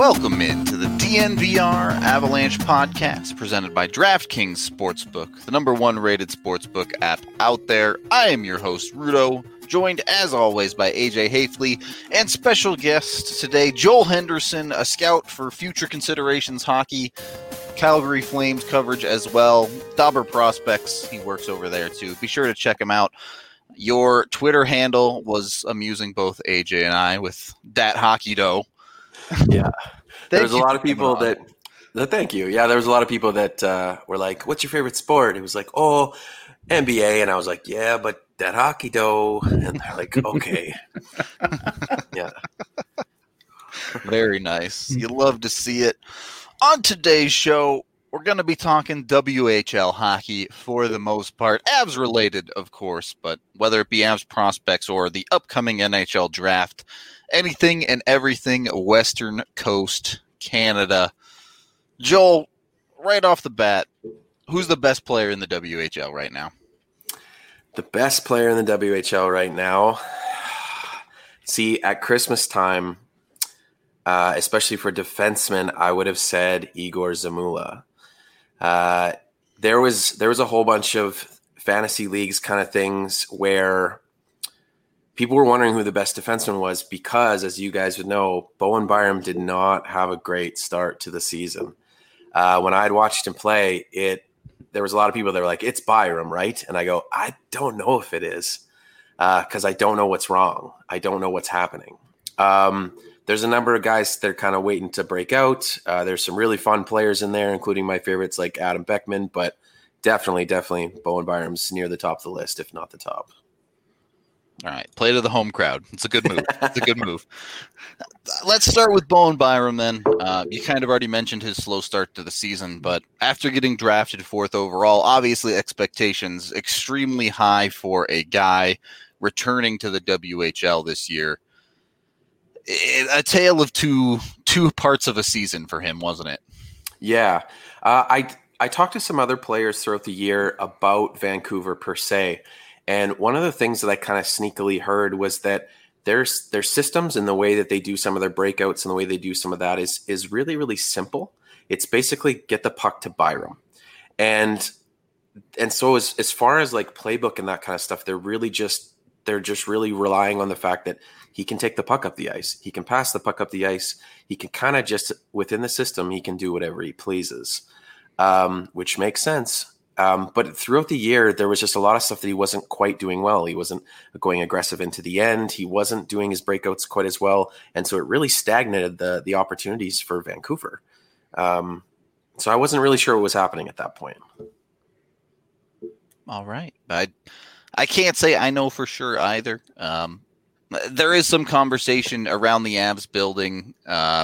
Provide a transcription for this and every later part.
Welcome into the DNVR Avalanche podcast presented by DraftKings Sportsbook, the number one rated sportsbook app out there. I am your host, Rudo, joined as always by AJ Hafley and special guest today, Joel Henderson, a scout for Future Considerations Hockey, Calgary Flames coverage as well. Dobber Prospects, he works over there too. Be sure to check him out. Your Twitter handle was amusing both AJ and I with Dat Hockey Dough. Yeah. There's a lot of people that thank you. Yeah, there was a lot of people that were like, what's your favorite sport? It was like, oh, NBA. And I was like, yeah, but that hockey dough. And they're like, okay. Yeah. Very nice. You love to see it. On today's show, we're going to be talking WHL hockey for the most part. Avs related, of course, but whether it be Avs prospects or the upcoming NHL draft, anything and everything Western Coast Canada. Joel, right off the bat, who's the best player in the WHL right now? The best player in the WHL right now? See, at Christmas time, especially for defensemen, I would have said Igor Zamula. There was a whole bunch of fantasy leagues kind of things where people were wondering who the best defenseman was because, as you guys would know, Bowen Byram did not have a great start to the season. When I had watched him play, there was a lot of people that were like, it's Byram, right? And I go, I don't know if it is because I don't know what's wrong. I don't know what's happening. There's a number of guys that are kind of waiting to break out. There's some really fun players in there, including my favorites like Adam Beckman, but definitely Bowen Byram's near the top of the list, if not the top. All right, play to the home crowd. It's a good move. It's a good move. Let's start with Bowen Byram then. You kind of already mentioned his slow start to the season, but after getting drafted fourth overall, obviously expectations extremely high for a guy returning to the WHL this year. A tale of two parts of a season for him, wasn't it? Yeah. I talked to some other players throughout the year about Vancouver per se. And one of the things that I kind of sneakily heard was that their systems and the way that they do some of their breakouts and the way they do some of that is really, really simple. It's basically get the puck to Byram. And so as far as like playbook and that kind of stuff, they're just really relying on the fact that he can take the puck up the ice. He can pass the puck up the ice. He can kind of just within the system, he can do whatever he pleases, which makes sense. But throughout the year, there was just a lot of stuff that he wasn't quite doing well. He wasn't going aggressive into the end. He wasn't doing his breakouts quite as well. And so it really stagnated the opportunities for Vancouver. So I wasn't really sure what was happening at that point. All right. I can't say I know for sure either. There is some conversation around the Avs building,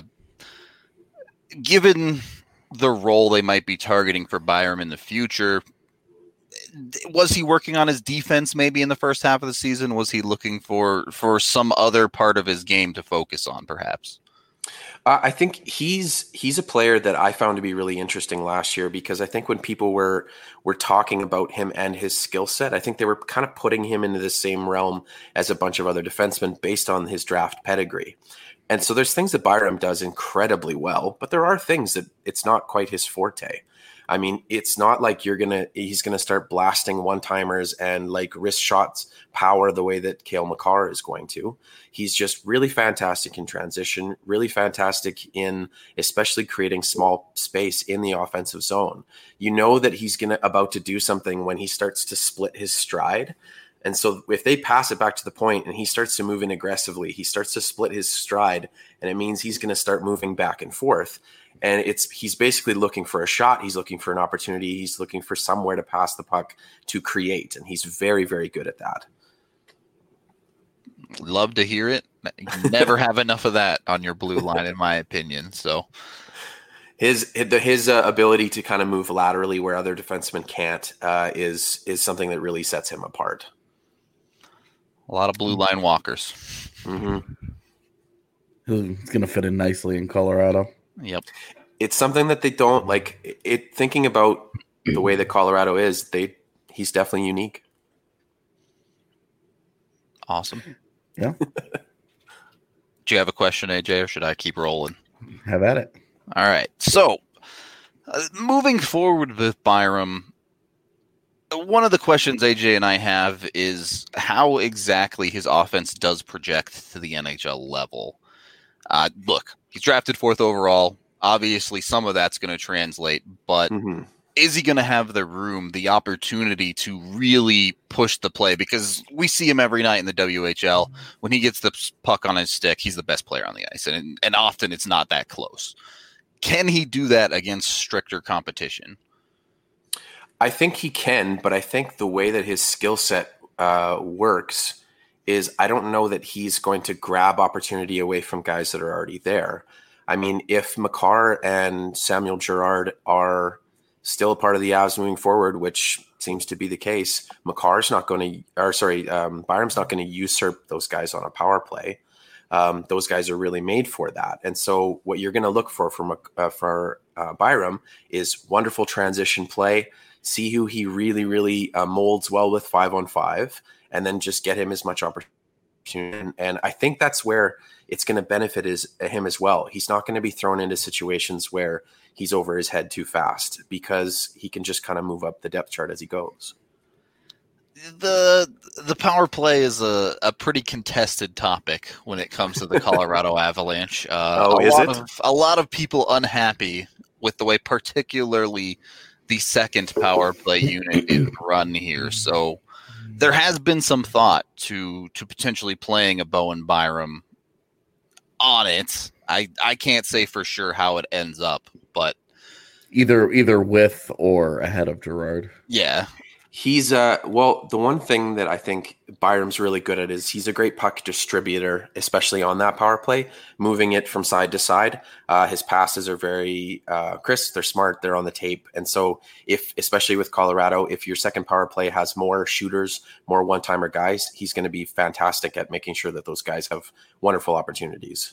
given the role they might be targeting for Byram in the future. Was he working on his defense maybe in the first half of the season? Was he looking for some other part of his game to focus on perhaps? I think he's a player that I found to be really interesting last year because I think when people were talking about him and his skill set, I think they were kind of putting him into the same realm as a bunch of other defensemen based on his draft pedigree. And so there's things that Byram does incredibly well, but there are things that it's not quite his forte. I mean, it's not like he's gonna start blasting one-timers and like wrist shots power the way that Cale Makar is going to. He's just really fantastic in transition, really fantastic in especially creating small space in the offensive zone. You know that he's about to do something when he starts to split his stride. And so if they pass it back to the point and he starts to move in aggressively, he starts to split his stride, and it means he's going to start moving back and forth. And he's basically looking for a shot. He's looking for an opportunity. He's looking for somewhere to pass the puck to create. And he's very, very good at that. Love to hear it. You never have enough of that on your blue line, in my opinion. So his ability to kind of move laterally where other defensemen can't is something that really sets him apart. A lot of blue line walkers. Mm-hmm. He's going to fit in nicely in Colorado. Yep. It's something that they don't like it. Thinking about the way that Colorado is, he's definitely unique. Awesome. Yeah. Do you have a question, AJ, or should I keep rolling? Have at it. All right. So, moving forward with Byram, one of the questions AJ and I have is how exactly his offense does project to the NHL level. Look, he's drafted 4th overall. Obviously, some of that's going to translate, but is he going to have the room, the opportunity to really push the play? Because we see him every night in the WHL. When he gets the puck on his stick, he's the best player on the ice, and often it's not that close. Can he do that against stricter competition? I think he can, but I think the way that his skill set works is I don't know that he's going to grab opportunity away from guys that are already there. I mean, if Makar and Samuel Girard are still a part of the Avs moving forward, which seems to be the case, Byram's not going to usurp those guys on a power play. Those guys are really made for that. And so what you're going to look for Byram is wonderful transition play, see who he really, really molds well with 5-on-5, and then just get him as much opportunity. And I think that's where it's going to benefit him as well. He's not going to be thrown into situations where he's over his head too fast because he can just kind of move up the depth chart as he goes. The power play is a pretty contested topic when it comes to the Colorado Avalanche. A lot of people unhappy with the way particularly the second power play unit is run here. So there has been some thought to potentially playing a Bowen Byram on it. I can't say for sure how it ends up, but either with or ahead of Girard. Yeah. He's the one thing that I think Byram's really good at is he's a great puck distributor, especially on that power play, moving it from side to side. His passes are very crisp. They're smart. They're on the tape. And so especially with Colorado, if your second power play has more shooters, more one-timer guys, he's going to be fantastic at making sure that those guys have wonderful opportunities.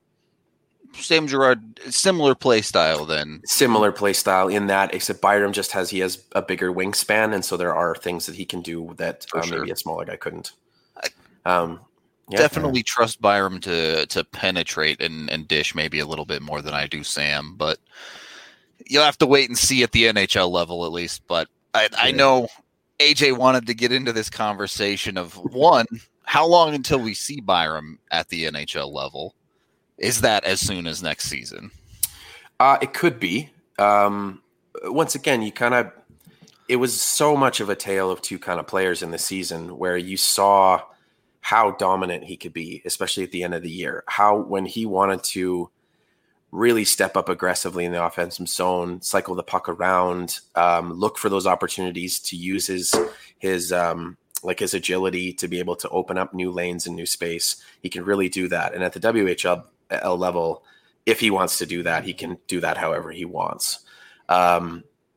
Sam Girard, similar play style then. Similar play style in that, except Byram he has a bigger wingspan, and so there are things that he can do that maybe a smaller guy couldn't. Definitely trust Byram to penetrate and dish maybe a little bit more than I do Sam, but you'll have to wait and see at the NHL level at least. But I know AJ wanted to get into this conversation of, one, how long until we see Byram at the NHL level? Is that as soon as next season? It could be. Once again, it was so much of a tale of two kind of players in the season where you saw how dominant he could be, especially at the end of the year. How when he wanted to really step up aggressively in the offensive zone, cycle the puck around, look for those opportunities to use his agility to be able to open up new lanes and new space. He can really do that. And at the WHL level, if he wants to do that, he can do that however he wants. The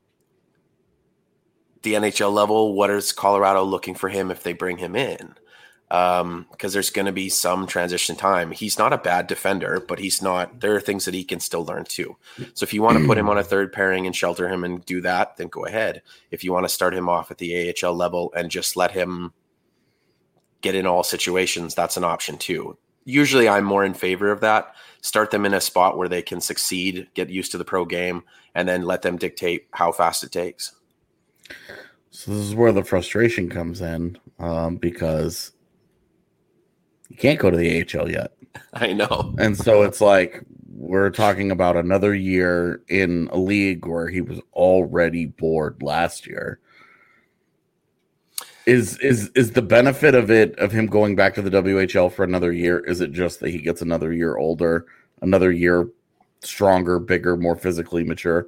NHL level, what is Colorado looking for him if they bring him in? Because there's going to be some transition time. He's not a bad defender, but there are things that he can still learn too. So if you want to put him on a third pairing and shelter him and do that, then go ahead. If you want to start him off at the AHL level and just let him get in all situations, that's an option too. Usually I'm more in favor of that. Start them in a spot where they can succeed, get used to the pro game, and then let them dictate how fast it takes. So this is where the frustration comes in, because you can't go to the AHL yet. I know. And so it's like we're talking about another year in a league where he was already bored last year. Is the benefit of him going back to the WHL for another year, is it just that he gets another year older, another year stronger, bigger, more physically mature?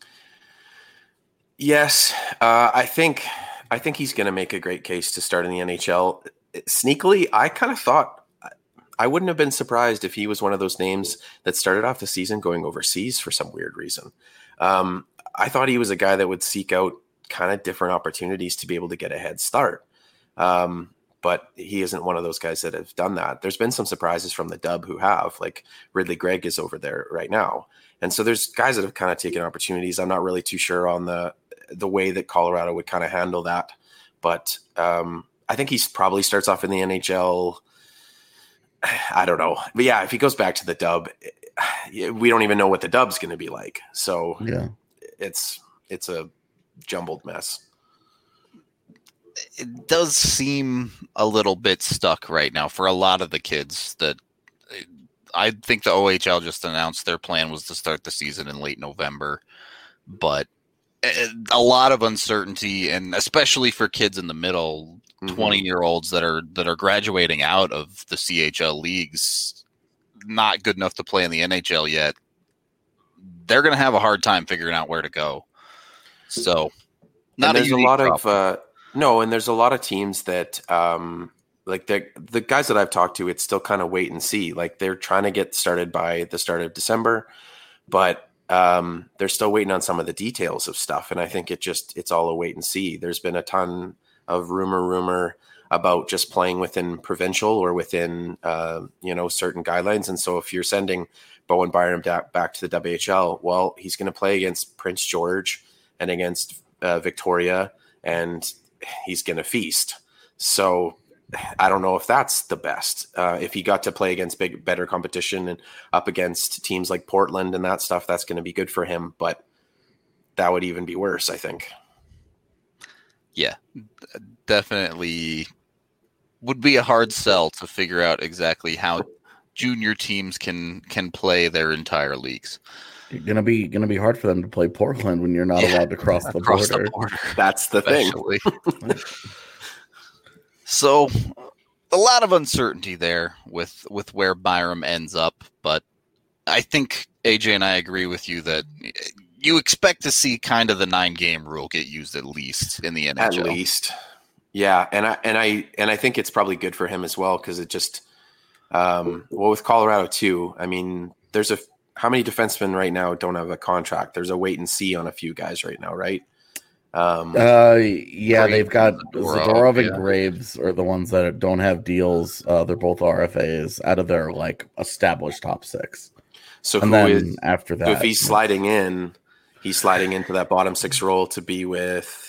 Yes. I think he's going to make a great case to start in the NHL. Sneakily, I kind of thought I wouldn't have been surprised if he was one of those names that started off the season going overseas for some weird reason. I thought he was a guy that would seek out kind of different opportunities to be able to get a head start. But he isn't one of those guys that have done that. There's been some surprises from the Dub who have, like Ridley Gregg is over there right now. And so there's guys that have kind of taken opportunities. I'm not really too sure on the way that Colorado would kind of handle that. But I think he probably starts off in the NHL. I don't know. But yeah, if he goes back to the Dub, we don't even know what the dub's going to be like. So Yeah. it's a jumbled mess. It does seem a little bit stuck right now for a lot of the kids. That I think the OHL just announced their plan was to start the season in late November, but a lot of uncertainty, and especially for kids in the middle, 20-year-olds that are graduating out of the CHL leagues, not good enough to play in the NHL yet. They're going to have a hard time figuring out where to go. So, not there's a lot of and there's a lot of teams that like the guys that I've talked to, it's still kind of wait and see. Like they're trying to get started by the start of December, but they're still waiting on some of the details of stuff. And I think it's all a wait and see. There's been a ton of rumor about just playing within provincial or within, certain guidelines. And so if you're sending Bowen Byram back to the WHL, well, he's going to play against Prince George and against Victoria, and he's going to feast. So I don't know if that's the best. If he got to play against better competition and up against teams like Portland and that stuff, that's going to be good for him. But that would even be worse, I think. Yeah, definitely would be a hard sell to figure out exactly how junior teams can play their entire leagues. It's gonna be hard for them to play Portland when you're not allowed to cross the border. That's the thing. So a lot of uncertainty there with where Byram ends up, but I think AJ and I agree with you that you expect to see kind of the 9-game rule get used at least in the NHL. At least. Yeah, and I think it's probably good for him as well, because it just with Colorado too. I mean, there's how many defensemen right now don't have a contract? There's a wait and see on a few guys right now, right? They've got Zadorov and Graves are the ones that don't have deals. They're both RFAs out of their established top 6. So after that, if he's sliding in, he's sliding into that bottom 6 role to be with.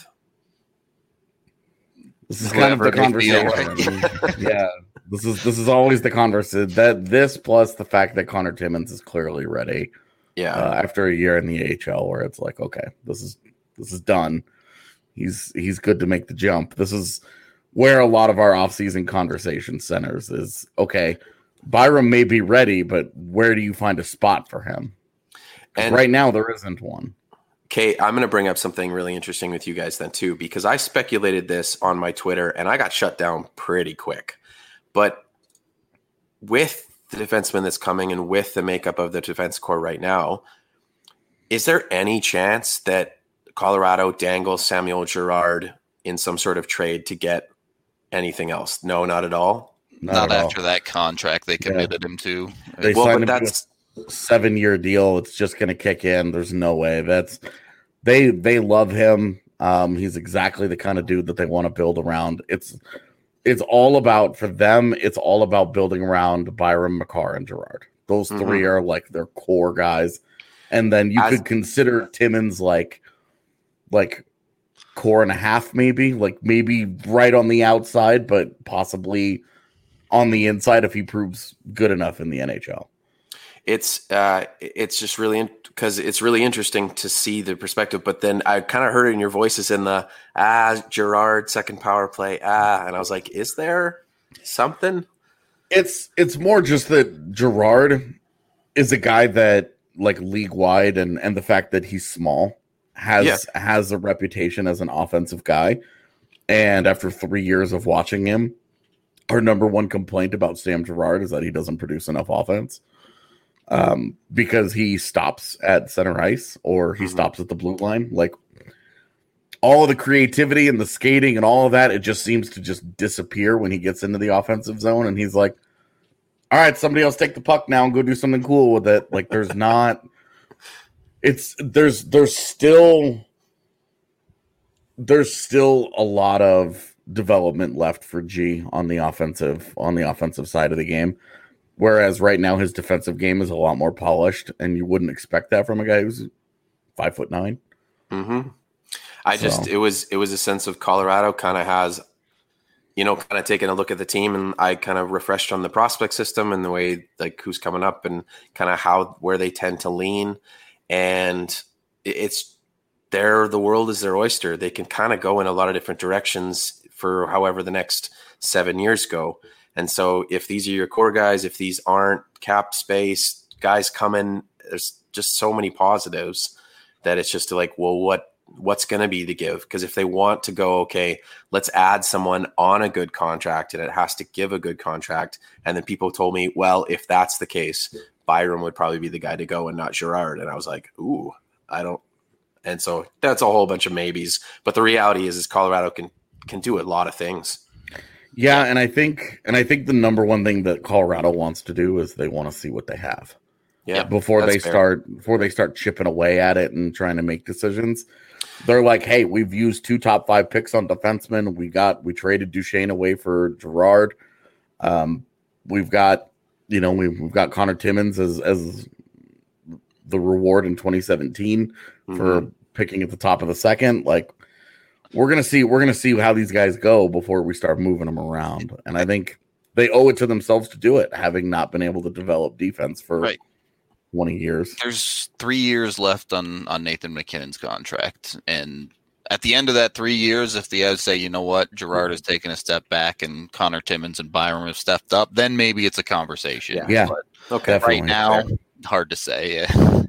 This is kind of the conversation. Yeah, this is always the conversation. That this plus the fact that Connor Timmins is clearly ready. Yeah, after a year in the AHL, where it's like, okay, this is done. He's good to make the jump. This is where a lot of our offseason conversation centers is, okay, Byram may be ready, but where do you find a spot for him? And right now there isn't one. Okay, I'm going to bring up something really interesting with you guys then too, because I speculated this on my Twitter and I got shut down pretty quick. But with the defenseman that's coming and with the makeup of the defense core right now, is there any chance that Colorado dangles Samuel Girard in some sort of trade to get anything else? No, not at all. Not after that contract they committed him to. They signed him to a 7-year deal. It's just going to kick in. There's no way. They love him. He's exactly the kind of dude that they want to build around. It's all about, for them, it's all about building around Byram, Makar, and Girard. Those three are their core guys. And then you could consider Timmins like core and a half, maybe right on the outside, but possibly on the inside if he proves good enough in the NHL. It's just really because it's really interesting to see the perspective. But then I kind of heard it in your voices in the Girard second power play and I was like, is there something? It's more just that Girard is a guy that league wide and the fact that he's small has a reputation as an offensive guy. And after 3 years of watching him, our number one complaint about Sam Girard is that he doesn't produce enough offense. Because he stops at center ice or he stops at the blue line. All of the creativity and the skating and all of that, it just seems to just disappear when he gets into the offensive zone. And he's like, all right, somebody else take the puck now and go do something cool with it. There's not, there's still a lot of development left for G on the offensive side of the game. Whereas right now his defensive game is a lot more polished, and you wouldn't expect that from a guy who's 5'9". It was a sense of Colorado kind of has kind of taking a look at the team, and I kind of refreshed on the prospect system and the way like who's coming up and kind of where they tend to lean. And it's the world is their oyster. They can kind of go in a lot of different directions for however the next 7 years go. And so if these are your core guys, if these aren't cap space guys coming, there's just so many positives that it's just like, well, what's going to be the give? Because if they want to go, okay, let's add someone on a good contract and it has to give a good contract. And then people told me, well, if that's the case, Byram would probably be the guy to go and not Girard. And I was like, ooh, I don't. And so that's a whole bunch of maybes. But the reality is Colorado can do a lot of things. Yeah, and I think the number one thing that Colorado wants to do is they want to see what they have. Yeah, before they start chipping away at it and trying to make decisions. They're like, hey, we've used 2 top 5 picks on defensemen. We traded Duchesne away for Girard. We've got Connor Timmins as the reward in 2017 for picking at the top of the second. Like, we're gonna see how these guys go before we start moving them around. And I think they owe it to themselves to do it, having not been able to develop defense for 20 years. There's 3 years left on Nathan MacKinnon's contract. And at the end of that 3 years, if the Avs say, you know what, Girard has taken a step back and Connor Timmins and Byram have stepped up, then maybe it's a conversation. Yeah. But okay. Right now, hard to say. Yeah.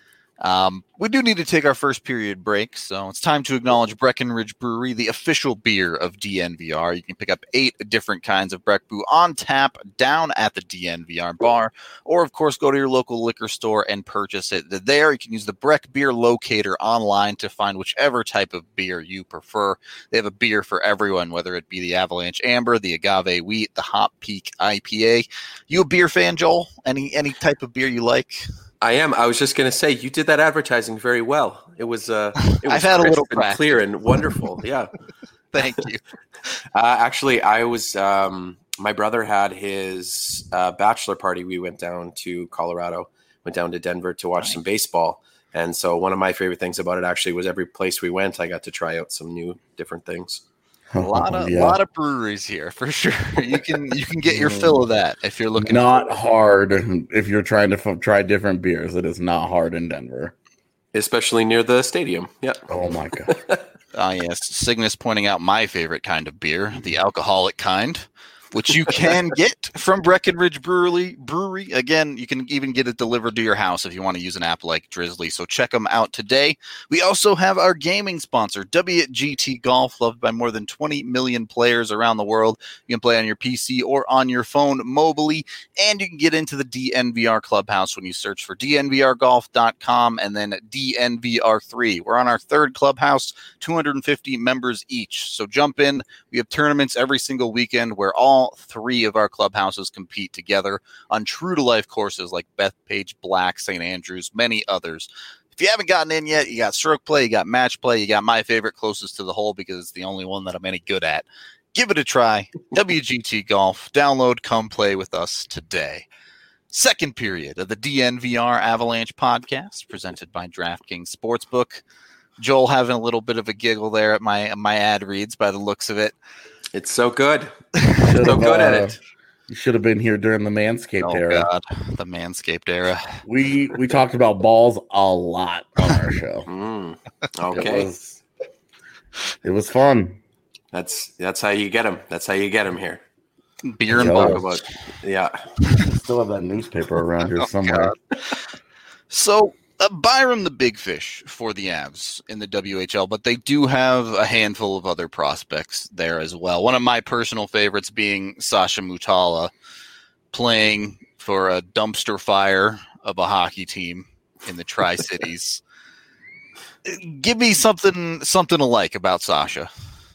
We do need to take our first period break, so it's time to acknowledge Breckenridge Brewery, the official beer of DNVR. You can pick up 8 different kinds of Breck Brew on tap down at the DNVR bar, or of course go to your local liquor store and purchase it there. You can use the Breck Beer Locator online to find whichever type of beer you prefer. They have a beer for everyone, whether it be the Avalanche Amber, the Agave Wheat, the Hop Peak IPA. You a beer fan, Joel? Any type of beer you like? I am. I was just going to say, you did that advertising very well. It was I've had a little and clear and wonderful. Yeah. Thank you. Actually, I was, my brother had his bachelor party. We went down to Colorado, went down to Denver to watch some baseball. And so one of my favorite things about it actually was every place we went, I got to try out some new different things. A lot of breweries here for sure. You can get your fill of that if you're looking. Not hard if you're trying to try different beers. It is not hard in Denver, especially near the stadium. Yeah. Oh my god. Yes, Cygnus pointing out my favorite kind of beer, the alcoholic kind, which you can get from Breckenridge Brewery. Again, you can even get it delivered to your house if you want to use an app like Drizzly. So check them out today. We also have our gaming sponsor, WGT Golf, loved by more than 20 million players around the world. You can play on your PC or on your phone mobily, and you can get into the DNVR Clubhouse when you search for dnvrgolf.com and then DNVR3. We're on our 3rd clubhouse, 250 members each. So jump in. We have tournaments every single weekend where all 3 of our clubhouses compete together on true-to-life courses like Bethpage, Black, St. Andrews, many others. If you haven't gotten in yet, you got stroke play, you got match play, you got my favorite closest to the hole because it's the only one that I'm any good at. Give it a try. WGT Golf. Download, come play with us today. Second period of the DNVR Avalanche podcast presented by DraftKings Sportsbook. Joel having a little bit of a giggle there at my ad reads by the looks of it. It's so good. So good at it. You should have been here during the Manscaped era. God, the Manscaped era. We talked about balls a lot on our show. Okay. It was fun. That's how you get them. That's how you get them here. Beer and balls. Yeah. Still have that newspaper around here somewhere. So Byram the big fish for the Avs in the WHL, but they do have a handful of other prospects there as well. One of my personal favorites being Sasha Mutala, playing for a dumpster fire of a hockey team in the Tri-Cities. Give me something to like about Sasha.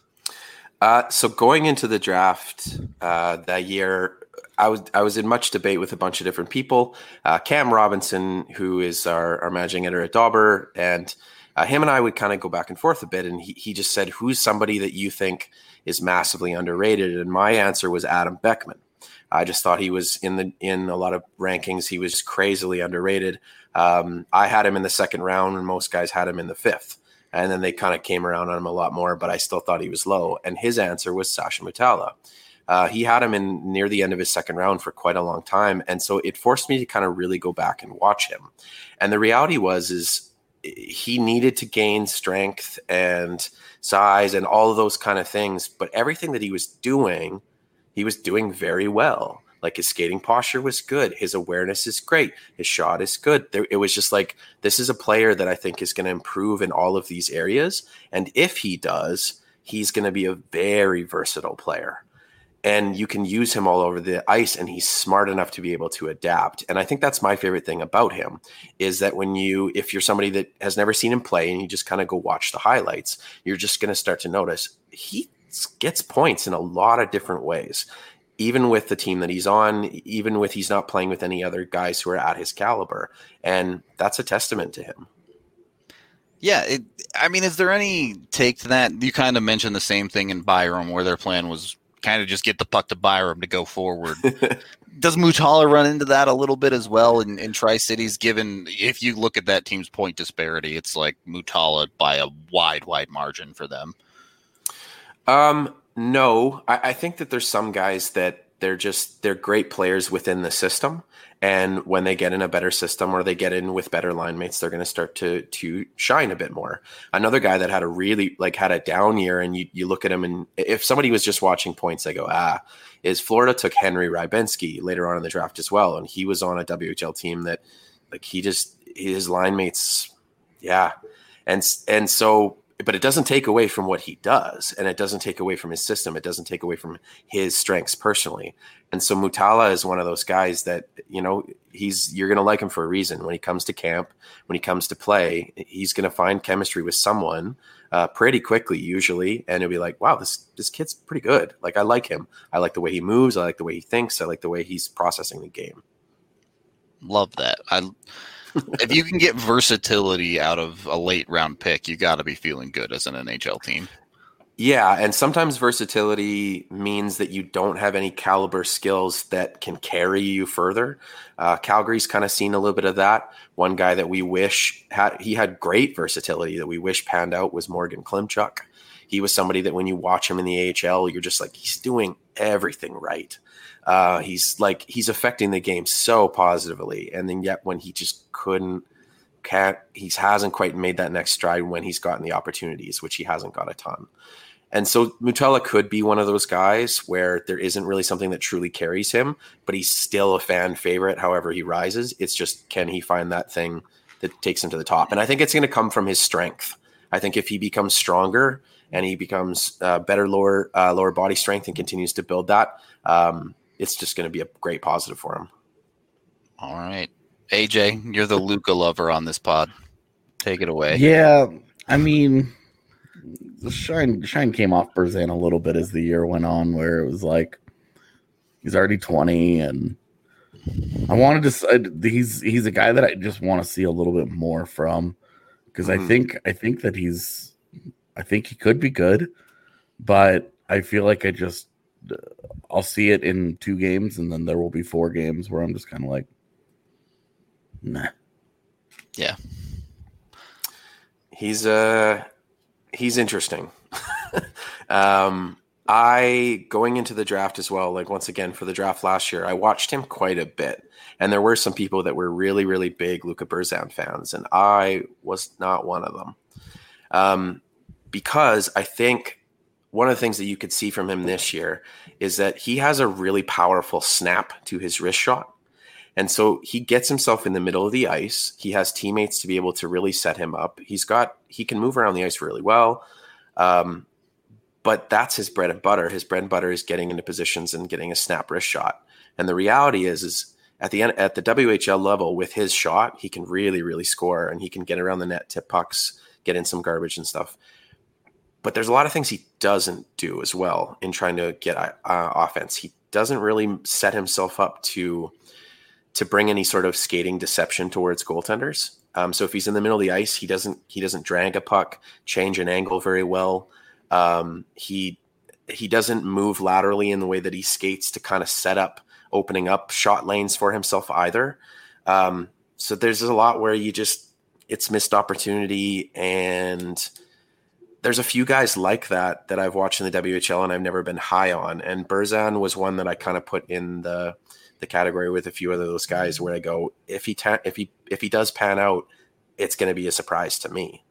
So going into the draft that year, I was in much debate with a bunch of different people. Cam Robinson, who is our managing editor at Dauber, and him and I would kind of go back and forth a bit. And he just said, who's somebody that you think is massively underrated? And my answer was Adam Beckman. I just thought he was in a lot of rankings. He was crazily underrated. I had him in the 2nd round, and most guys had him in the 5th. And then they kind of came around on him a lot more, but I still thought he was low. And his answer was Sasha Mutala. He had him in near the end of his second round for quite a long time. And so it forced me to kind of really go back and watch him. And the reality is he needed to gain strength and size and all of those kind of things. But everything that he was doing very well. Like his skating posture was good. His awareness is great. His shot is good. It was just like, this is a player that I think is going to improve in all of these areas. And if he does, he's going to be a very versatile player. And you can use him all over the ice, and he's smart enough to be able to adapt. And I think that's my favorite thing about him is that if you're somebody that has never seen him play and you just kind of go watch the highlights, you're just going to start to notice he gets points in a lot of different ways, even with the team that he's on, even with he's not playing with any other guys who are at his caliber. And that's a testament to him. Yeah. Is there any take to that? You kind of mentioned the same thing in Byram where their plan was kind of just get the puck to Byram to go forward. Does Mutala run into that a little bit as well in Tri-Cities, given if you look at that team's point disparity, it's like Mutala by a wide margin for them? No, I think that there's some guys that they're great players within the system. And when they get in a better system or they get in with better line mates, they're going to start to shine a bit more. Another guy that had a down year, and you look at him, and if somebody was just watching points, they go, is Florida took Henry Rybensky later on in the draft as well. And he was on a WHL team that his line mates. Yeah. And so, but it doesn't take away from what he does, and it doesn't take away from his system. It doesn't take away from his strengths personally. And so Mutala is one of those guys that, you're going to like him for a reason. When he comes to camp, when he comes to play, he's going to find chemistry with someone pretty quickly, usually. And it'll be like, wow, this kid's pretty good. Like, I like him. I like the way he moves. I like the way he thinks. I like the way he's processing the game. Love that. If you can get versatility out of a late round pick, you got to be feeling good as an NHL team. Yeah, and sometimes versatility means that you don't have any caliber skills that can carry you further. Calgary's kind of seen a little bit of that. One guy that we wish had great versatility that we wish panned out was Morgan Klimchuk. He was somebody that when you watch him in the AHL, you're just like, he's doing everything right. He's affecting the game so positively. And then yet when he just he hasn't quite made that next stride when he's gotten the opportunities, which he hasn't got a ton. And so Mutala could be one of those guys where there isn't really something that truly carries him, but he's still a fan favorite. However he rises, it's just, can he find that thing that takes him to the top? And I think it's going to come from his strength. I think if he becomes stronger and he becomes better lower body strength and continues to build that, it's just going to be a great positive for him. All right. AJ, you're the Luka lover on this pod. Take it away. Yeah, the shine came off Berzan a little bit as the year went on, where it was like he's already 20, and I wanted to. He's a guy that I just want to see a little bit more from, because I think that he could be good, but I feel like I'll see it in 2 games, and then there will be 4 games where I'm just kind of like, nah. Yeah. He's interesting. Going into the draft as well, like once again for the draft last year, I watched him quite a bit. And there were some people that were really, really big Luka Berzan fans, and I was not one of them. Because I think one of the things that you could see from him this year is that he has a really powerful snap to his wrist shot. And so he gets himself in the middle of the ice. He has teammates to be able to really set him up. He can move around the ice really well. But that's his bread and butter. His bread and butter is getting into positions and getting a snap wrist shot. And the reality is at the WHL level with his shot, he can really, really score, and he can get around the net, tip pucks, get in some garbage and stuff. But there's a lot of things he doesn't do as well in trying to get offense. He doesn't really set himself up to bring any sort of skating deception towards goaltenders. So if he's in the middle of the ice, he doesn't drag a puck, change an angle very well. He doesn't move laterally in the way that he skates to kind of set up, opening up shot lanes for himself either. So there's a lot where it's missed opportunity. And there's a few guys like that I've watched in the WHL and I've never been high on. And Berzan was one that I kind of put in the category with a few of those guys where I go, if he does pan out, it's going to be a surprise to me.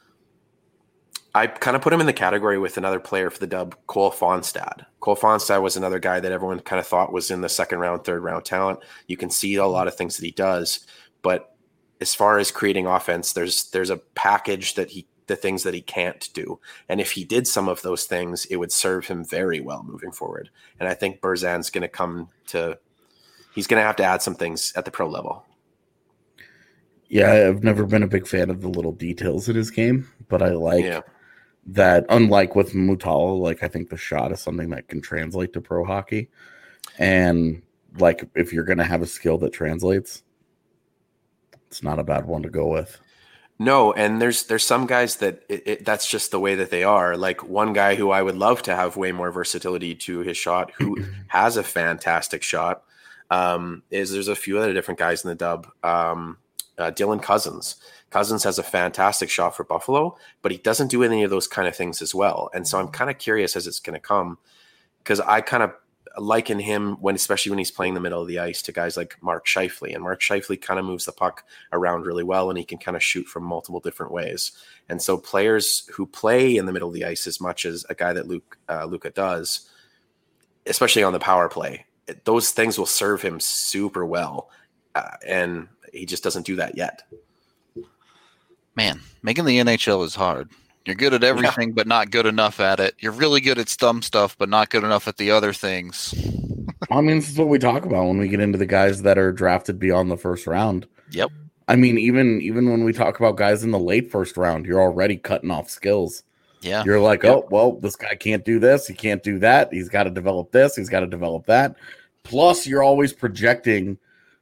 I kind of put him in the category with another player for the Dub, Cole Fonstad. Cole Fonstad was another guy that everyone kind of thought was in the second round, third round talent. You can see a lot of things that he does, but as far as creating offense, there's a package the things that he can't do. And if he did some of those things, it would serve him very well moving forward. And I think Berzan's going to he's going to have to add some things at the pro level. Yeah, I've never been a big fan of the little details in his game, but I like that. Unlike with Mutala, like I think the shot is something that can translate to pro hockey. And like if you're going to have a skill that translates, it's not a bad one to go with. No, and there's some guys that that's just the way that they are. Like one guy who I would love to have way more versatility to his shot, who has a fantastic shot, is there's a few other different guys in the Dub. Dylan Cousins. Cousins has a fantastic shot for Buffalo, but he doesn't do any of those kind of things as well. And so I'm kind of curious as it's going to come, because I kind of liken him especially when he's playing the middle of the ice to guys like Mark Scheifele. And Mark Scheifele kind of moves the puck around really well, and he can kind of shoot from multiple different ways. And so players who play in the middle of the ice as much as a guy that Luka does, especially on the power play, those things will serve him super well. And he just doesn't do that yet. Man, making the NHL is hard. You're good at everything, but not good enough at it. You're really good at some stuff, but not good enough at the other things. I mean, this is what we talk about when we get into the guys that are drafted beyond the first round. Yep. I mean, even when we talk about guys in the late first round, you're already cutting off skills. Yeah. You're like, oh, well, this guy can't do this. He can't do that. He's got to develop this. He's got to develop that. Plus, you're always projecting,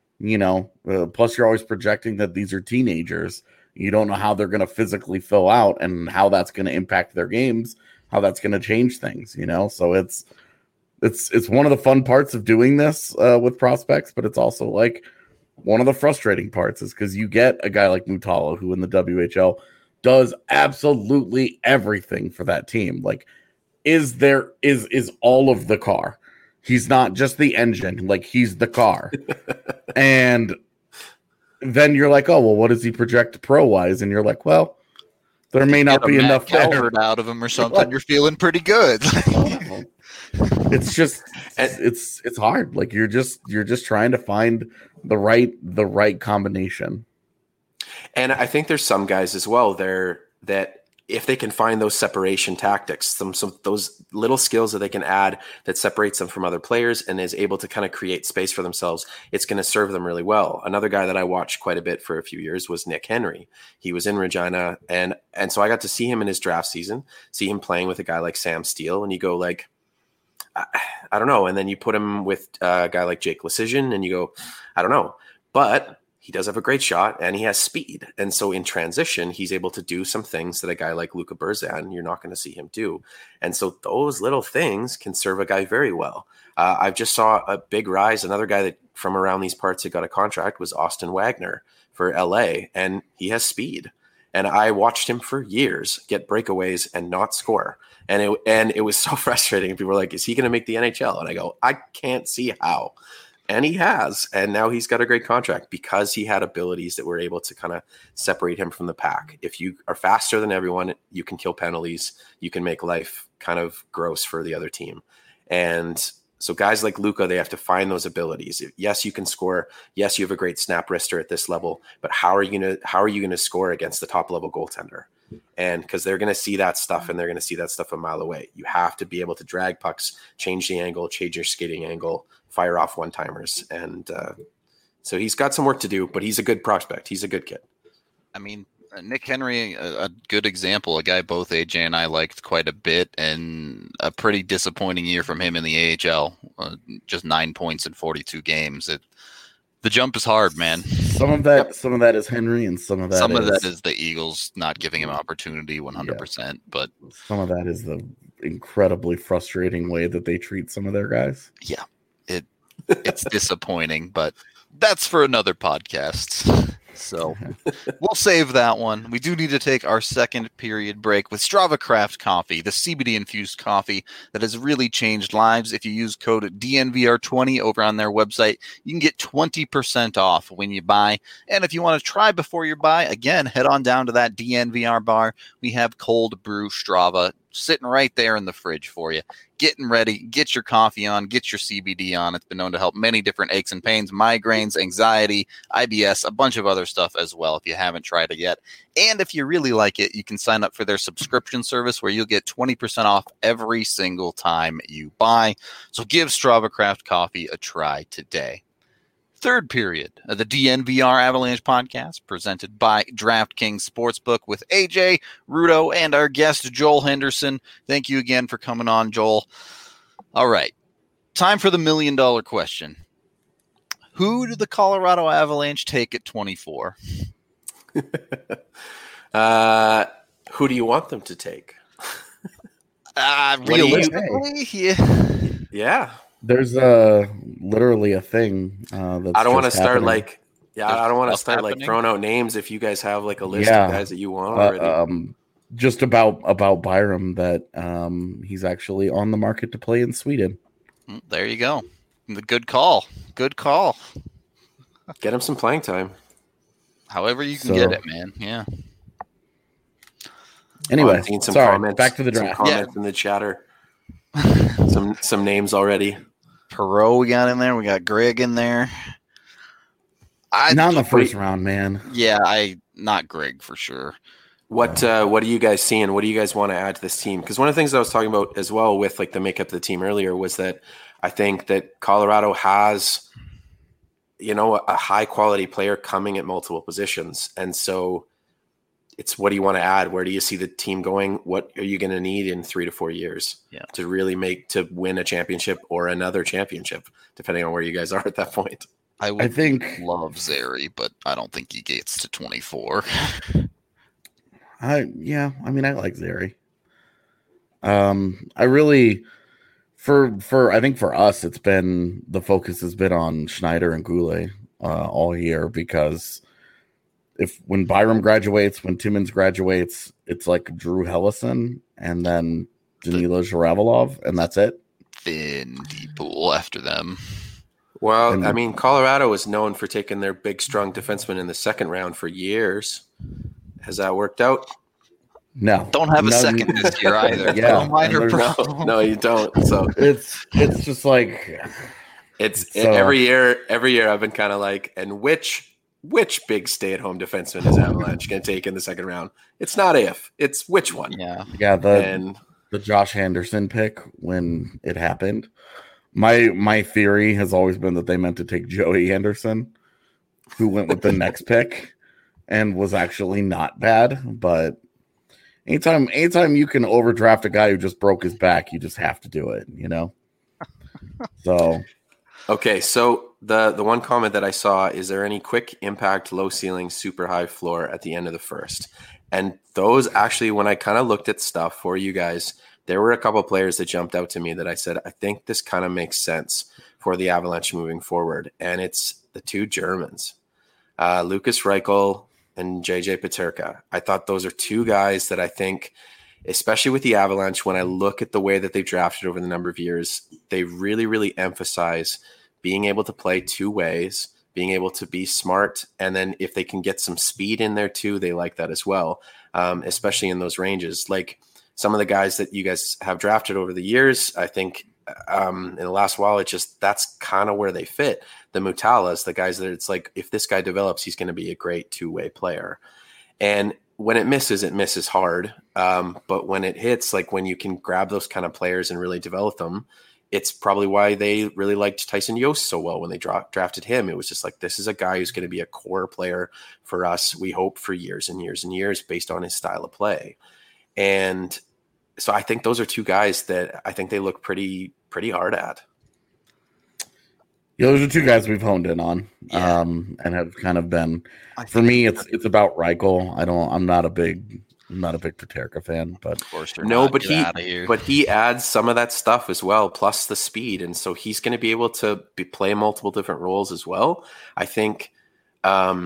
that these are teenagers. You don't know how they're going to physically fill out and how that's going to impact their games, how that's going to change things, So it's one of the fun parts of doing this with prospects, but it's also like one of the frustrating parts is because you get a guy like Mutala who in the WHL does absolutely everything for that team. Like is all of the car. He's not just the engine, like he's the car. And then you're like, oh, well, what does he project pro-wise? And you're like, well, there may not be enough there. Out of him or something. You're feeling pretty good. It's just it's hard. Like you're just trying to find the right combination. And I think there's some guys as well there that if they can find those separation tactics, some those little skills that they can add that separates them from other players and is able to kind of create space for themselves, it's going to serve them really well. Another guy that I watched quite a bit for a few years was Nick Henry. He was in Regina, and so I got to see him in his draft season, see him playing with a guy like Sam Steele, and you go like, I don't know. And then you put him with a guy like Jake Lecision, and you go, I don't know. But he does have a great shot and he has speed. And so in transition, he's able to do some things that a guy like Luka Berzan, you're not going to see him do. And so those little things can serve a guy very well. I just saw a big rise. Another guy that from around these parts that got a contract was Austin Wagner for LA, and he has speed. And I watched him for years get breakaways and not score. And it was so frustrating. People were like, is he going to make the NHL? And I go, I can't see how. And he has, and now he's got a great contract because he had abilities that were able to kind of separate him from the pack. If you are faster than everyone, you can kill penalties. You can make life kind of gross for the other team. And so guys like Luka, they have to find those abilities. Yes, you can score. Yes, you have a great snap wrister at this level, but how are you going to score against the top level goaltender? And because they're going to see that stuff and they're going to see that stuff a mile away. You have to be able to drag pucks, change the angle, change your skating angle, fire off one-timers. And so he's got some work to do, but he's a good prospect. He's a good kid. I mean, Nick Henry, a good example, a guy both AJ and I liked quite a bit, and a pretty disappointing year from him in the AHL. Just 9 points in 42 games. The jump is hard, man. Some of that is Henry, and some of that is the Eagles not giving him opportunity 100%. Yeah. But some of that is the incredibly frustrating way that they treat some of their guys. Yeah, it's disappointing, but that's for another podcast. So we'll save that one. We do need to take our second period break with Strava Craft Coffee, the CBD infused coffee that has really changed lives. If you use code DNVR20 over on their website, you can get 20% off when you buy. And if you want to try before you buy, again, head on down to that DNVR bar. We have cold brew Strava sitting right there in the fridge for you. Getting ready, get your coffee on, get your CBD on. It's been known to help many different aches and pains, migraines, anxiety, IBS, a bunch of other stuff as well if you haven't tried it yet. And if you really like it, you can sign up for their subscription service where you'll get 20% off every single time you buy. So give Strava Craft Coffee a try today. Third period of the DNVR Avalanche podcast presented by DraftKings Sportsbook with AJ, Rudo, and our guest, Joel Henderson. Thank you again for coming on, Joel. All right. Time for the $1 million question. Who did the Colorado Avalanche take at 24? Who do you want them to take? Realistically, yeah. There's literally a thing that's I don't want to start happening. I don't want to start throwing out names if you guys have like a list of guys that you want already. Just about Byram that he's actually on the market to play in Sweden. There you go. Good call. Good call. Get him some playing time. However you can get it, man. Yeah. Anyway, comments, back to the draft. Some comments in the chatter. some names already. Perot we got in there. We got Greg in there. Not in the first round, man. Yeah, not Greg for sure. What are you guys seeing? What do you guys want to add to this team? Because one of the things I was talking about as well with like the makeup of the team earlier was that I think that Colorado has, a high quality player coming at multiple positions. And so it's what do you want to add? Where do you see the team going? What are you going to need in 3 to 4 years to really to win a championship or another championship, depending on where you guys are at that point? I think love Zary, but I don't think he gets to 24. I like Zary. I really, I think for us, the focus has been on Schneider and Goulet all year because when Byram graduates, when Timmins graduates, it's like Drew Hellison and then Danila Zhiravelov, and that's it. Thin deep pool after them. Well, Colorado is known for taking their big, strong defenseman in the second round for years. Has that worked out? No. Don't have a second this year either. Yeah. No, you don't. So it's just like every year I've been kind of like, and which big stay-at-home defenseman is Avalanche going to take in the second round? It's not if, it's which one. Yeah. The Josh Henderson pick when it happened. My theory has always been that they meant to take Joey Henderson, who went with the next pick and was actually not bad. But anytime you can overdraft a guy who just broke his back, you just have to do it, So okay, so the one comment that I saw, is there any quick impact, low ceiling, super high floor at the end of the first? And those actually, when I kind of looked at stuff for you guys, there were a couple of players that jumped out to me that I said, I think this kind of makes sense for the Avalanche moving forward. And it's the two Germans, Lukas Reichel and JJ Peterka. I thought those are two guys that I think, especially with the Avalanche, when I look at the way that they've drafted over the number of years, they really, really emphasize being able to play two ways, being able to be smart. And then if they can get some speed in there too, they like that as well, especially in those ranges. Like some of the guys that you guys have drafted over the years, I think in the last while, that's kind of where they fit. The Mutalas, the guys that it's like, if this guy develops, he's going to be a great two-way player. And when it misses hard. But when it hits, like when you can grab those kind of players and really develop them, it's probably why they really liked Tyson Yost so well when they drafted him. It was just like, this is a guy who's going to be a core player for us, we hope, for years and years and years based on his style of play. And so I think those are two guys that I think they look pretty hard at. Yeah, those are two guys we've honed in on, and have kind of been. For me, it's about Reichel. I'm not a big Peterka fan, but of course but he adds some of that stuff as well, plus the speed, and so he's going to be able to play multiple different roles as well. I think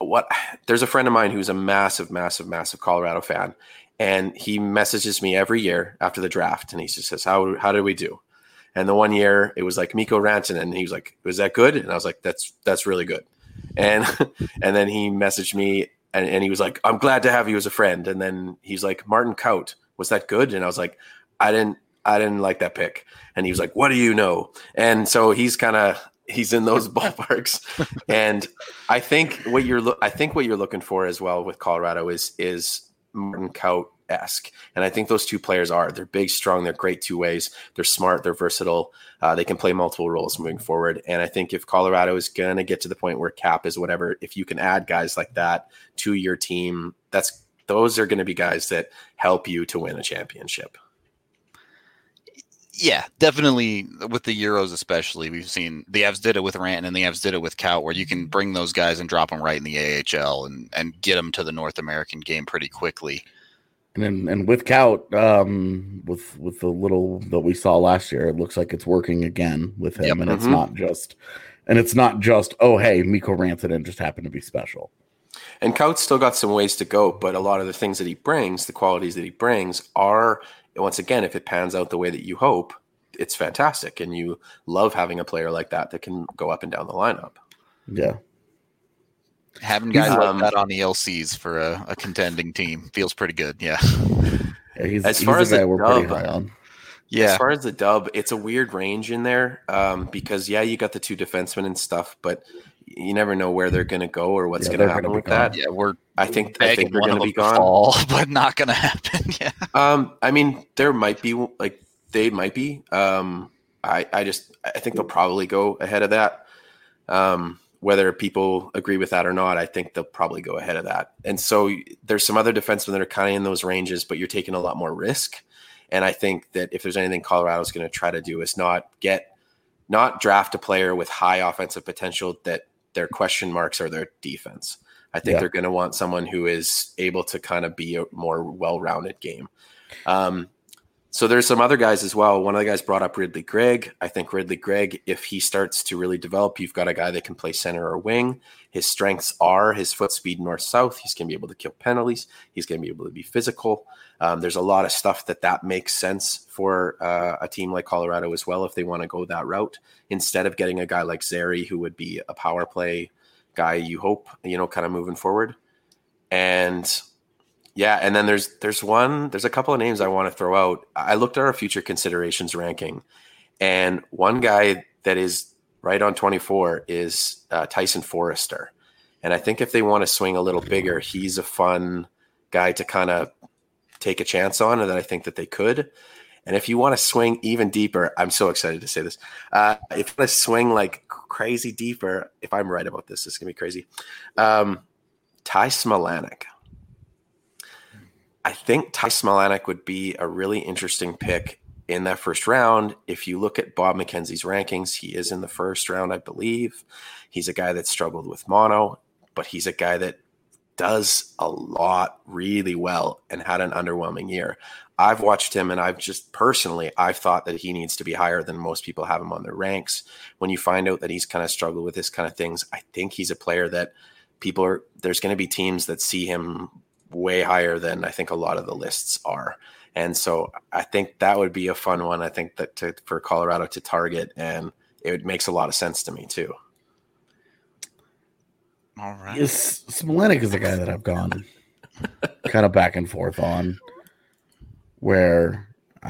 there's a friend of mine who's a massive Colorado fan, and he messages me every year after the draft, and he just says, how did we do? And the one year it was like Mikko Rantanen, and he was like, was that good? And I was like, that's really good. And and then he messaged me and he was like, I'm glad to have you as a friend. And then he's like, Martin Kaut, was that good? And I was like, I didn't like that pick. And he was like, what do you know? And so he's in those ballparks. And I think what you're looking for as well with Colorado is Martin Kaut-esque. And I think those two players they're big, strong, they're great two ways. They're smart, they're versatile. They can play multiple roles moving forward. And I think if Colorado is going to get to the point where cap is whatever, if you can add guys like that to your team, those are going to be guys that help you to win a championship. Yeah, definitely with the Euros especially. We've seen the Avs did it with Rantanen and the Avs did it with Kaut, where you can bring those guys and drop them right in the AHL and get them to the North American game pretty quickly. And with Kaut, with the little that we saw last year, it looks like it's working again with him. Yep. And it's not just oh hey, Mikko Rantanen just happened to be special. And Kaut's still got some ways to go, but a lot of the things that he brings, the qualities that he brings are, once again, if it pans out the way that you hope, it's fantastic. And you love having a player like that can go up and down the lineup. Yeah. Having guys like that on the LCs for a contending team feels pretty good. Yeah. He's a guy we're pretty high on. Yeah. As far as the dub, it's a weird range in there because, you got the two defensemen and stuff, but you never know where they're going to go or what's going to happen with that. Yeah, I think they're going to be gone, but not going to happen. Yeah. I mean, there might be they might be. I think they'll probably go ahead of that. Whether people agree with that or not, I think they'll probably go ahead of that. And so there's some other defensemen that are kind of in those ranges, but you're taking a lot more risk. And I think that if there's anything Colorado's going to try to do is not draft a player with high offensive potential that their question marks are their defense. I think they're going to want someone who is able to kind of be a more well-rounded game. So there's some other guys as well. One of the guys brought up Ridly Greig. I think Ridly Greig, if he starts to really develop, you've got a guy that can play center or wing. His strengths are his foot speed north-south. He's going to be able to kill penalties. He's going to be able to be physical. There's a lot of stuff that makes sense for a team like Colorado as well if they want to go that route. Instead of getting a guy like Zary, who would be a power play guy, you hope, kind of moving forward. And and then there's a couple of names I want to throw out. I looked at our future considerations ranking, and one guy that is right on 24 is Tyson Forrester. And I think if they want to swing a little bigger, he's a fun guy to kind of take a chance on, and that I think that they could. And if you want to swing even deeper, I'm so excited to say this. If you want to swing like crazy deeper, if I'm right about this, it's going to be crazy. Ty Smilanic. I think Ty Smilanic would be a really interesting pick in that first round. If you look at Bob McKenzie's rankings, he is in the first round, I believe. He's a guy that struggled with mono, but he's a guy that does a lot really well and had an underwhelming year. I've watched him, and I've thought that he needs to be higher than most people have him on their ranks. When you find out that he's kind of struggled with this kind of things, I think he's a player that there's going to be teams that see him way higher than I think a lot of the lists are. And so I think that would be a fun one. I think that for Colorado to target, and it makes a lot of sense to me too. All right. Smilanic is a guy that I've gone kind of back and forth on, where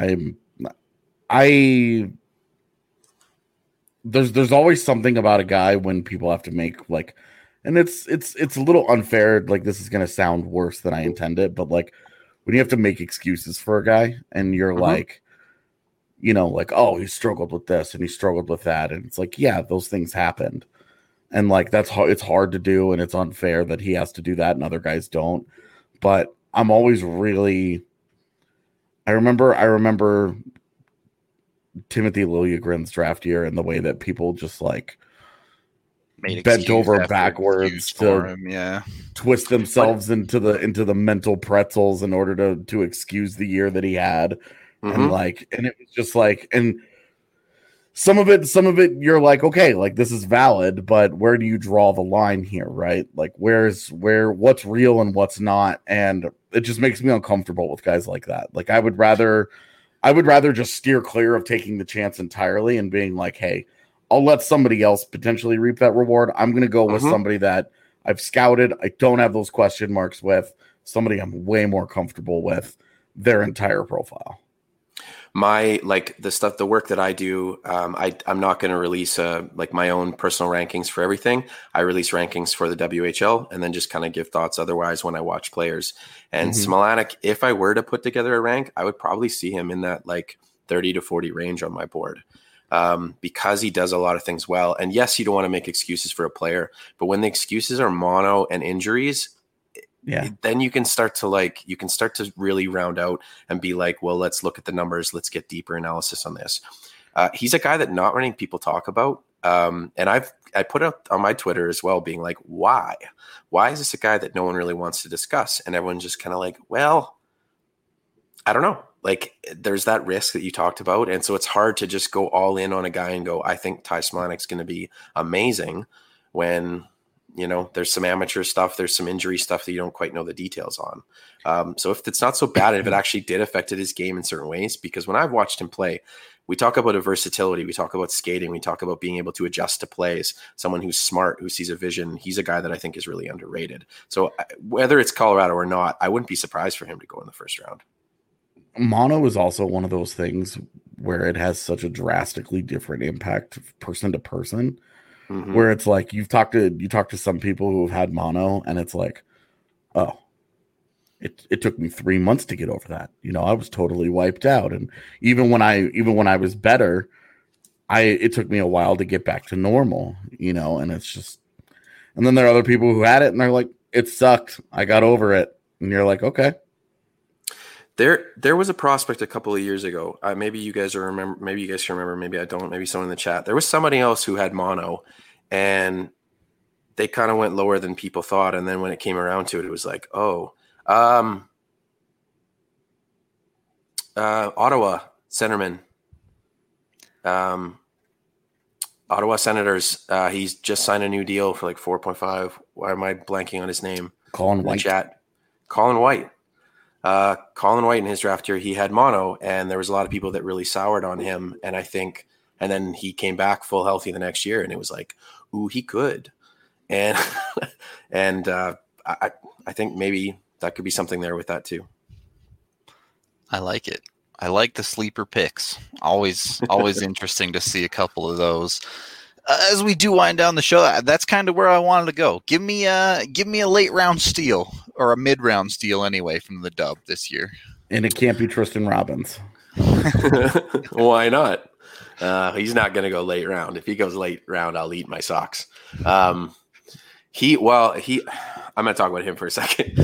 there's always something about a guy when people have to make like, and it's a little unfair. Like, this is going to sound worse than I intended, but like when you have to make excuses for a guy and you're like, like, oh, he struggled with this and he struggled with that. And it's like, yeah, those things happened. And like, it's hard to do. And it's unfair that he has to do that and other guys don't. But I'm always really, I remember Timothy Liljegren's draft year and the way that people just like bent over backwards to twist themselves into the mental pretzels in order to excuse the year that he had. And it was just like, and some of it, you're like, okay, like this is valid, but where do you draw the line here, right? Like, what's real and what's not, and it just makes me uncomfortable with guys like that. Like, I would rather just steer clear of taking the chance entirely and being like, hey, I'll let somebody else potentially reap that reward. I'm going to go with somebody that I've scouted. I don't have those question marks with, somebody I'm way more comfortable with their entire profile. The work that I do, I'm not going to release my own personal rankings for everything. I release rankings for the WHL and then just kind of give thoughts otherwise when I watch players. And Smilanic, if I were to put together a rank, I would probably see him in that like 30 to 40 range on my board, because he does a lot of things well. And yes, you don't want to make excuses for a player, but when the excuses are mono and injuries, then you can start to really round out and be like, well, let's look at the numbers. Let's get deeper analysis on this. He's a guy that not many people talk about. And I put up on my Twitter as well, being like, why is this a guy that no one really wants to discuss? And everyone's just kind of like, well, I don't know. Like, there's that risk that you talked about. And so it's hard to just go all in on a guy and go, I think Ty Smilanic going to be amazing, when, there's some amateur stuff, there's some injury stuff that you don't quite know the details on. So if it's not so bad, if it actually did affected his game in certain ways, because when I've watched him play, we talk about a versatility, we talk about skating, we talk about being able to adjust to plays, someone who's smart, who sees a vision. He's a guy that I think is really underrated. So whether it's Colorado or not, I wouldn't be surprised for him to go in the first round. Mono is also one of those things where it has such a drastically different impact person to person. Where it's like you talk to some people who have had mono, and it's like, oh, it took me 3 months to get over that. I was totally wiped out, and even when I was better, it took me a while to get back to normal. And it's just, and then there are other people who had it, and they're like, it sucked, I got over it, and you're like, okay. There was a prospect a couple of years ago. Maybe you guys remember. Maybe you guys can remember. Maybe I don't. Maybe someone in the chat. There was somebody else who had mono, and they kind of went lower than people thought. And then when it came around to it, it was like, oh, Ottawa centerman, Ottawa Senators. He's just signed a new deal for like 4.5. Why am I blanking on his name? Colin White. Colin White. Colin White in his draft year, he had mono, and there was a lot of people that really soured on him. And then he came back full healthy the next year, and it was like, ooh, he could. And I think maybe that could be something there with that too. I like it. I like the sleeper picks. Always interesting to see a couple of those. As we do wind down the show, that's kind of where I wanted to go. Give me a late round steal, or a mid round steal anyway, from the Dub this year. And it can't be Tristan Robbins. Why not? He's not going to go late round. If he goes late round, I'll eat my socks. I'm going to talk about him for a second.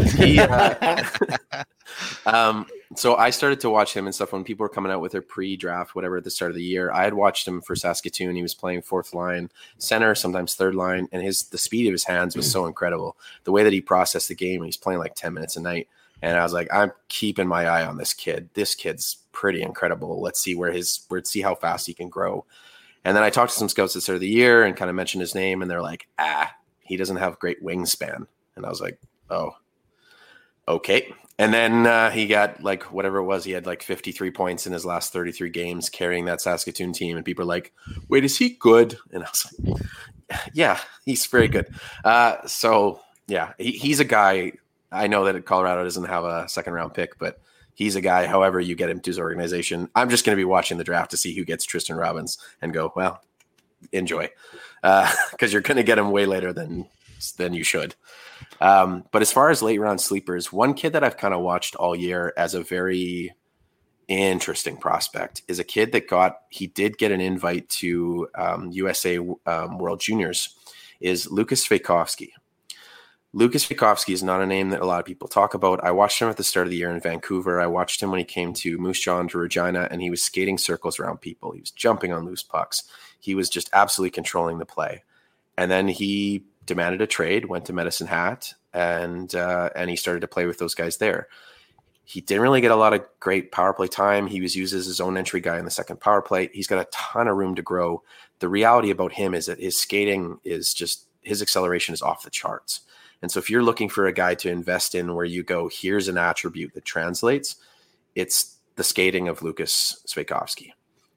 So I started to watch him and stuff when people were coming out with their pre-draft, whatever, at the start of the year. I had watched him for Saskatoon. He was playing fourth line center, sometimes third line, and the speed of his hands was so incredible. The way that he processed the game, he's playing like 10 minutes a night. And I was like, I'm keeping my eye on this kid. This kid's pretty incredible. Let's see see how fast he can grow. And then I talked to some scouts at the start of the year and kind of mentioned his name, and they're like, he doesn't have great wingspan. And I was like, oh, okay. And then he got like whatever it was. He had like 53 points in his last 33 games carrying that Saskatoon team. And people are like, wait, is he good? And I was like, yeah, he's very good. So yeah, he's a guy. I know that Colorado doesn't have a second round pick, but he's a guy, however you get him to his organization. I'm just going to be watching the draft to see who gets Tristan Robbins and go, well, enjoy. Because you're going to get him way later than you should. But as far as late round sleepers, one kid that I've kind of watched all year as a very interesting prospect is a kid that he did get an invite to USA World Juniors, is Lucas Svejkovsky. Lucas Svejkovsky is not a name that a lot of people talk about. I watched him at the start of the year in Vancouver. I watched him when he came to Moose Jaw to Regina, and he was skating circles around people. He was jumping on loose pucks. He was just absolutely controlling the play. And then he demanded a trade, went to Medicine Hat, and he started to play with those guys there. He didn't really get a lot of great power play time. He was used as his own entry guy in the second power play. He's got a ton of room to grow. The reality about him is that his skating is just, his acceleration is off the charts. And so if you're looking for a guy to invest in where you go, here's an attribute that translates, it's the skating of Lukas Svejkovsky.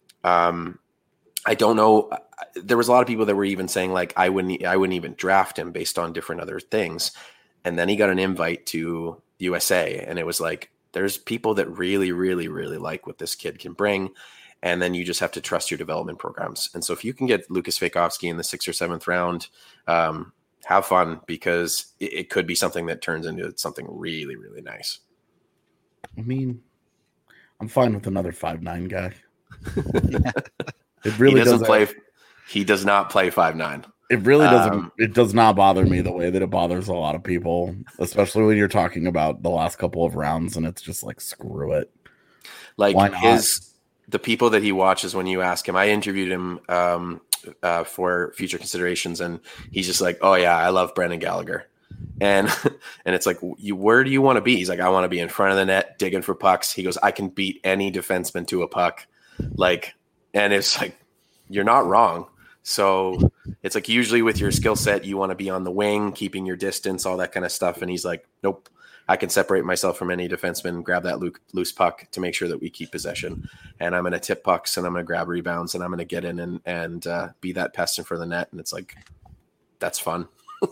I don't know. There was a lot of people that were even saying like, I wouldn't even draft him based on different other things. And then he got an invite to USA, and it was like, there's people that really, really, really like what this kid can bring. And then you just have to trust your development programs. And so if you can get Lukas Svejkovsky in the 6th or 7th round, have fun, because it could be something that turns into something really, really nice. I mean, I'm fine with another 5'9" guy. It really doesn't play. He does not play 5'9". It really doesn't. It does not bother me the way that it bothers a lot of people, especially when you're talking about the last couple of rounds, and it's just like, screw it. Like the people that he watches, when you ask him, I interviewed him for future considerations, and he's just like, oh yeah, I love Brendan Gallagher. And it's like, where do you want to be? He's like, I want to be in front of the net digging for pucks. He goes, I can beat any defenseman to a puck. Like, and it's like, you're not wrong. So it's like, usually with your skill set, you want to be on the wing, keeping your distance, all that kind of stuff. And he's like, nope, I can separate myself from any defenseman, grab that loose puck to make sure that we keep possession. And I'm going to tip pucks, and I'm going to grab rebounds, and I'm going to get in and be that pest in front of the net. And it's like, that's fun.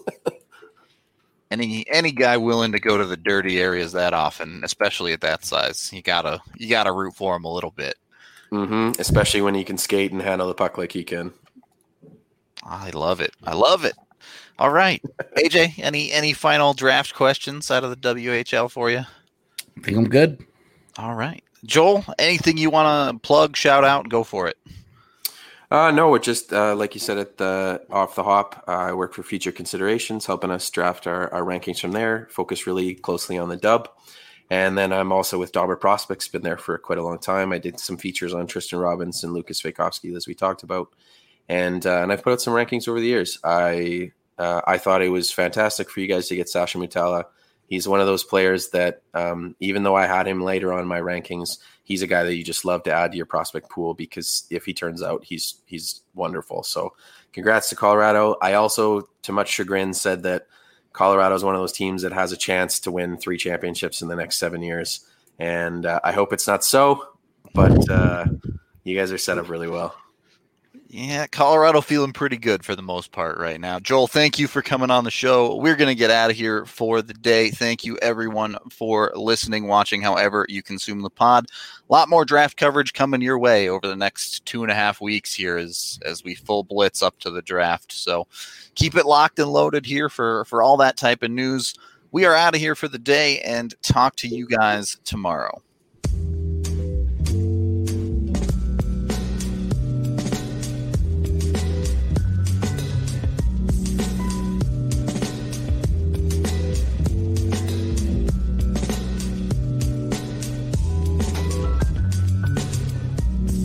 Any guy willing to go to the dirty areas that often, especially at that size, you gotta root for him a little bit. Mm-hmm. Especially when he can skate and handle the puck like he can. I love it. All right, AJ, any final draft questions out of the WHL for you? I think I'm good. All right, Joel, anything you want to plug, shout out, go for it. No, it just like you said at the off the hop, I work for Future Considerations, helping us draft our rankings from there. Focus really closely on the dub, and then I'm also with Dauber Prospects. Been there for quite a long time. I did some features on Tristan Robbins and Lukas Svejkovsky, as we talked about, and I've put out some rankings over the years. I thought it was fantastic for you guys to get Sasha Mutala. He's one of those players that, even though I had him later on my rankings, he's a guy that you just love to add to your prospect pool, because if he turns out, he's wonderful. So congrats to Colorado. I also, to much chagrin, said that Colorado is one of those teams that has a chance to win 3 championships in the next 7 years. And I hope it's not so, but you guys are set up really well. Yeah, Colorado feeling pretty good for the most part right now. Joel, thank you for coming on the show. We're going to get out of here for the day. Thank you, everyone, for listening, watching, however you consume the pod. A lot more draft coverage coming your way over the next 2.5 weeks here as we full blitz up to the draft. So keep it locked and loaded here for all that type of news. We are out of here for the day, and talk to you guys tomorrow.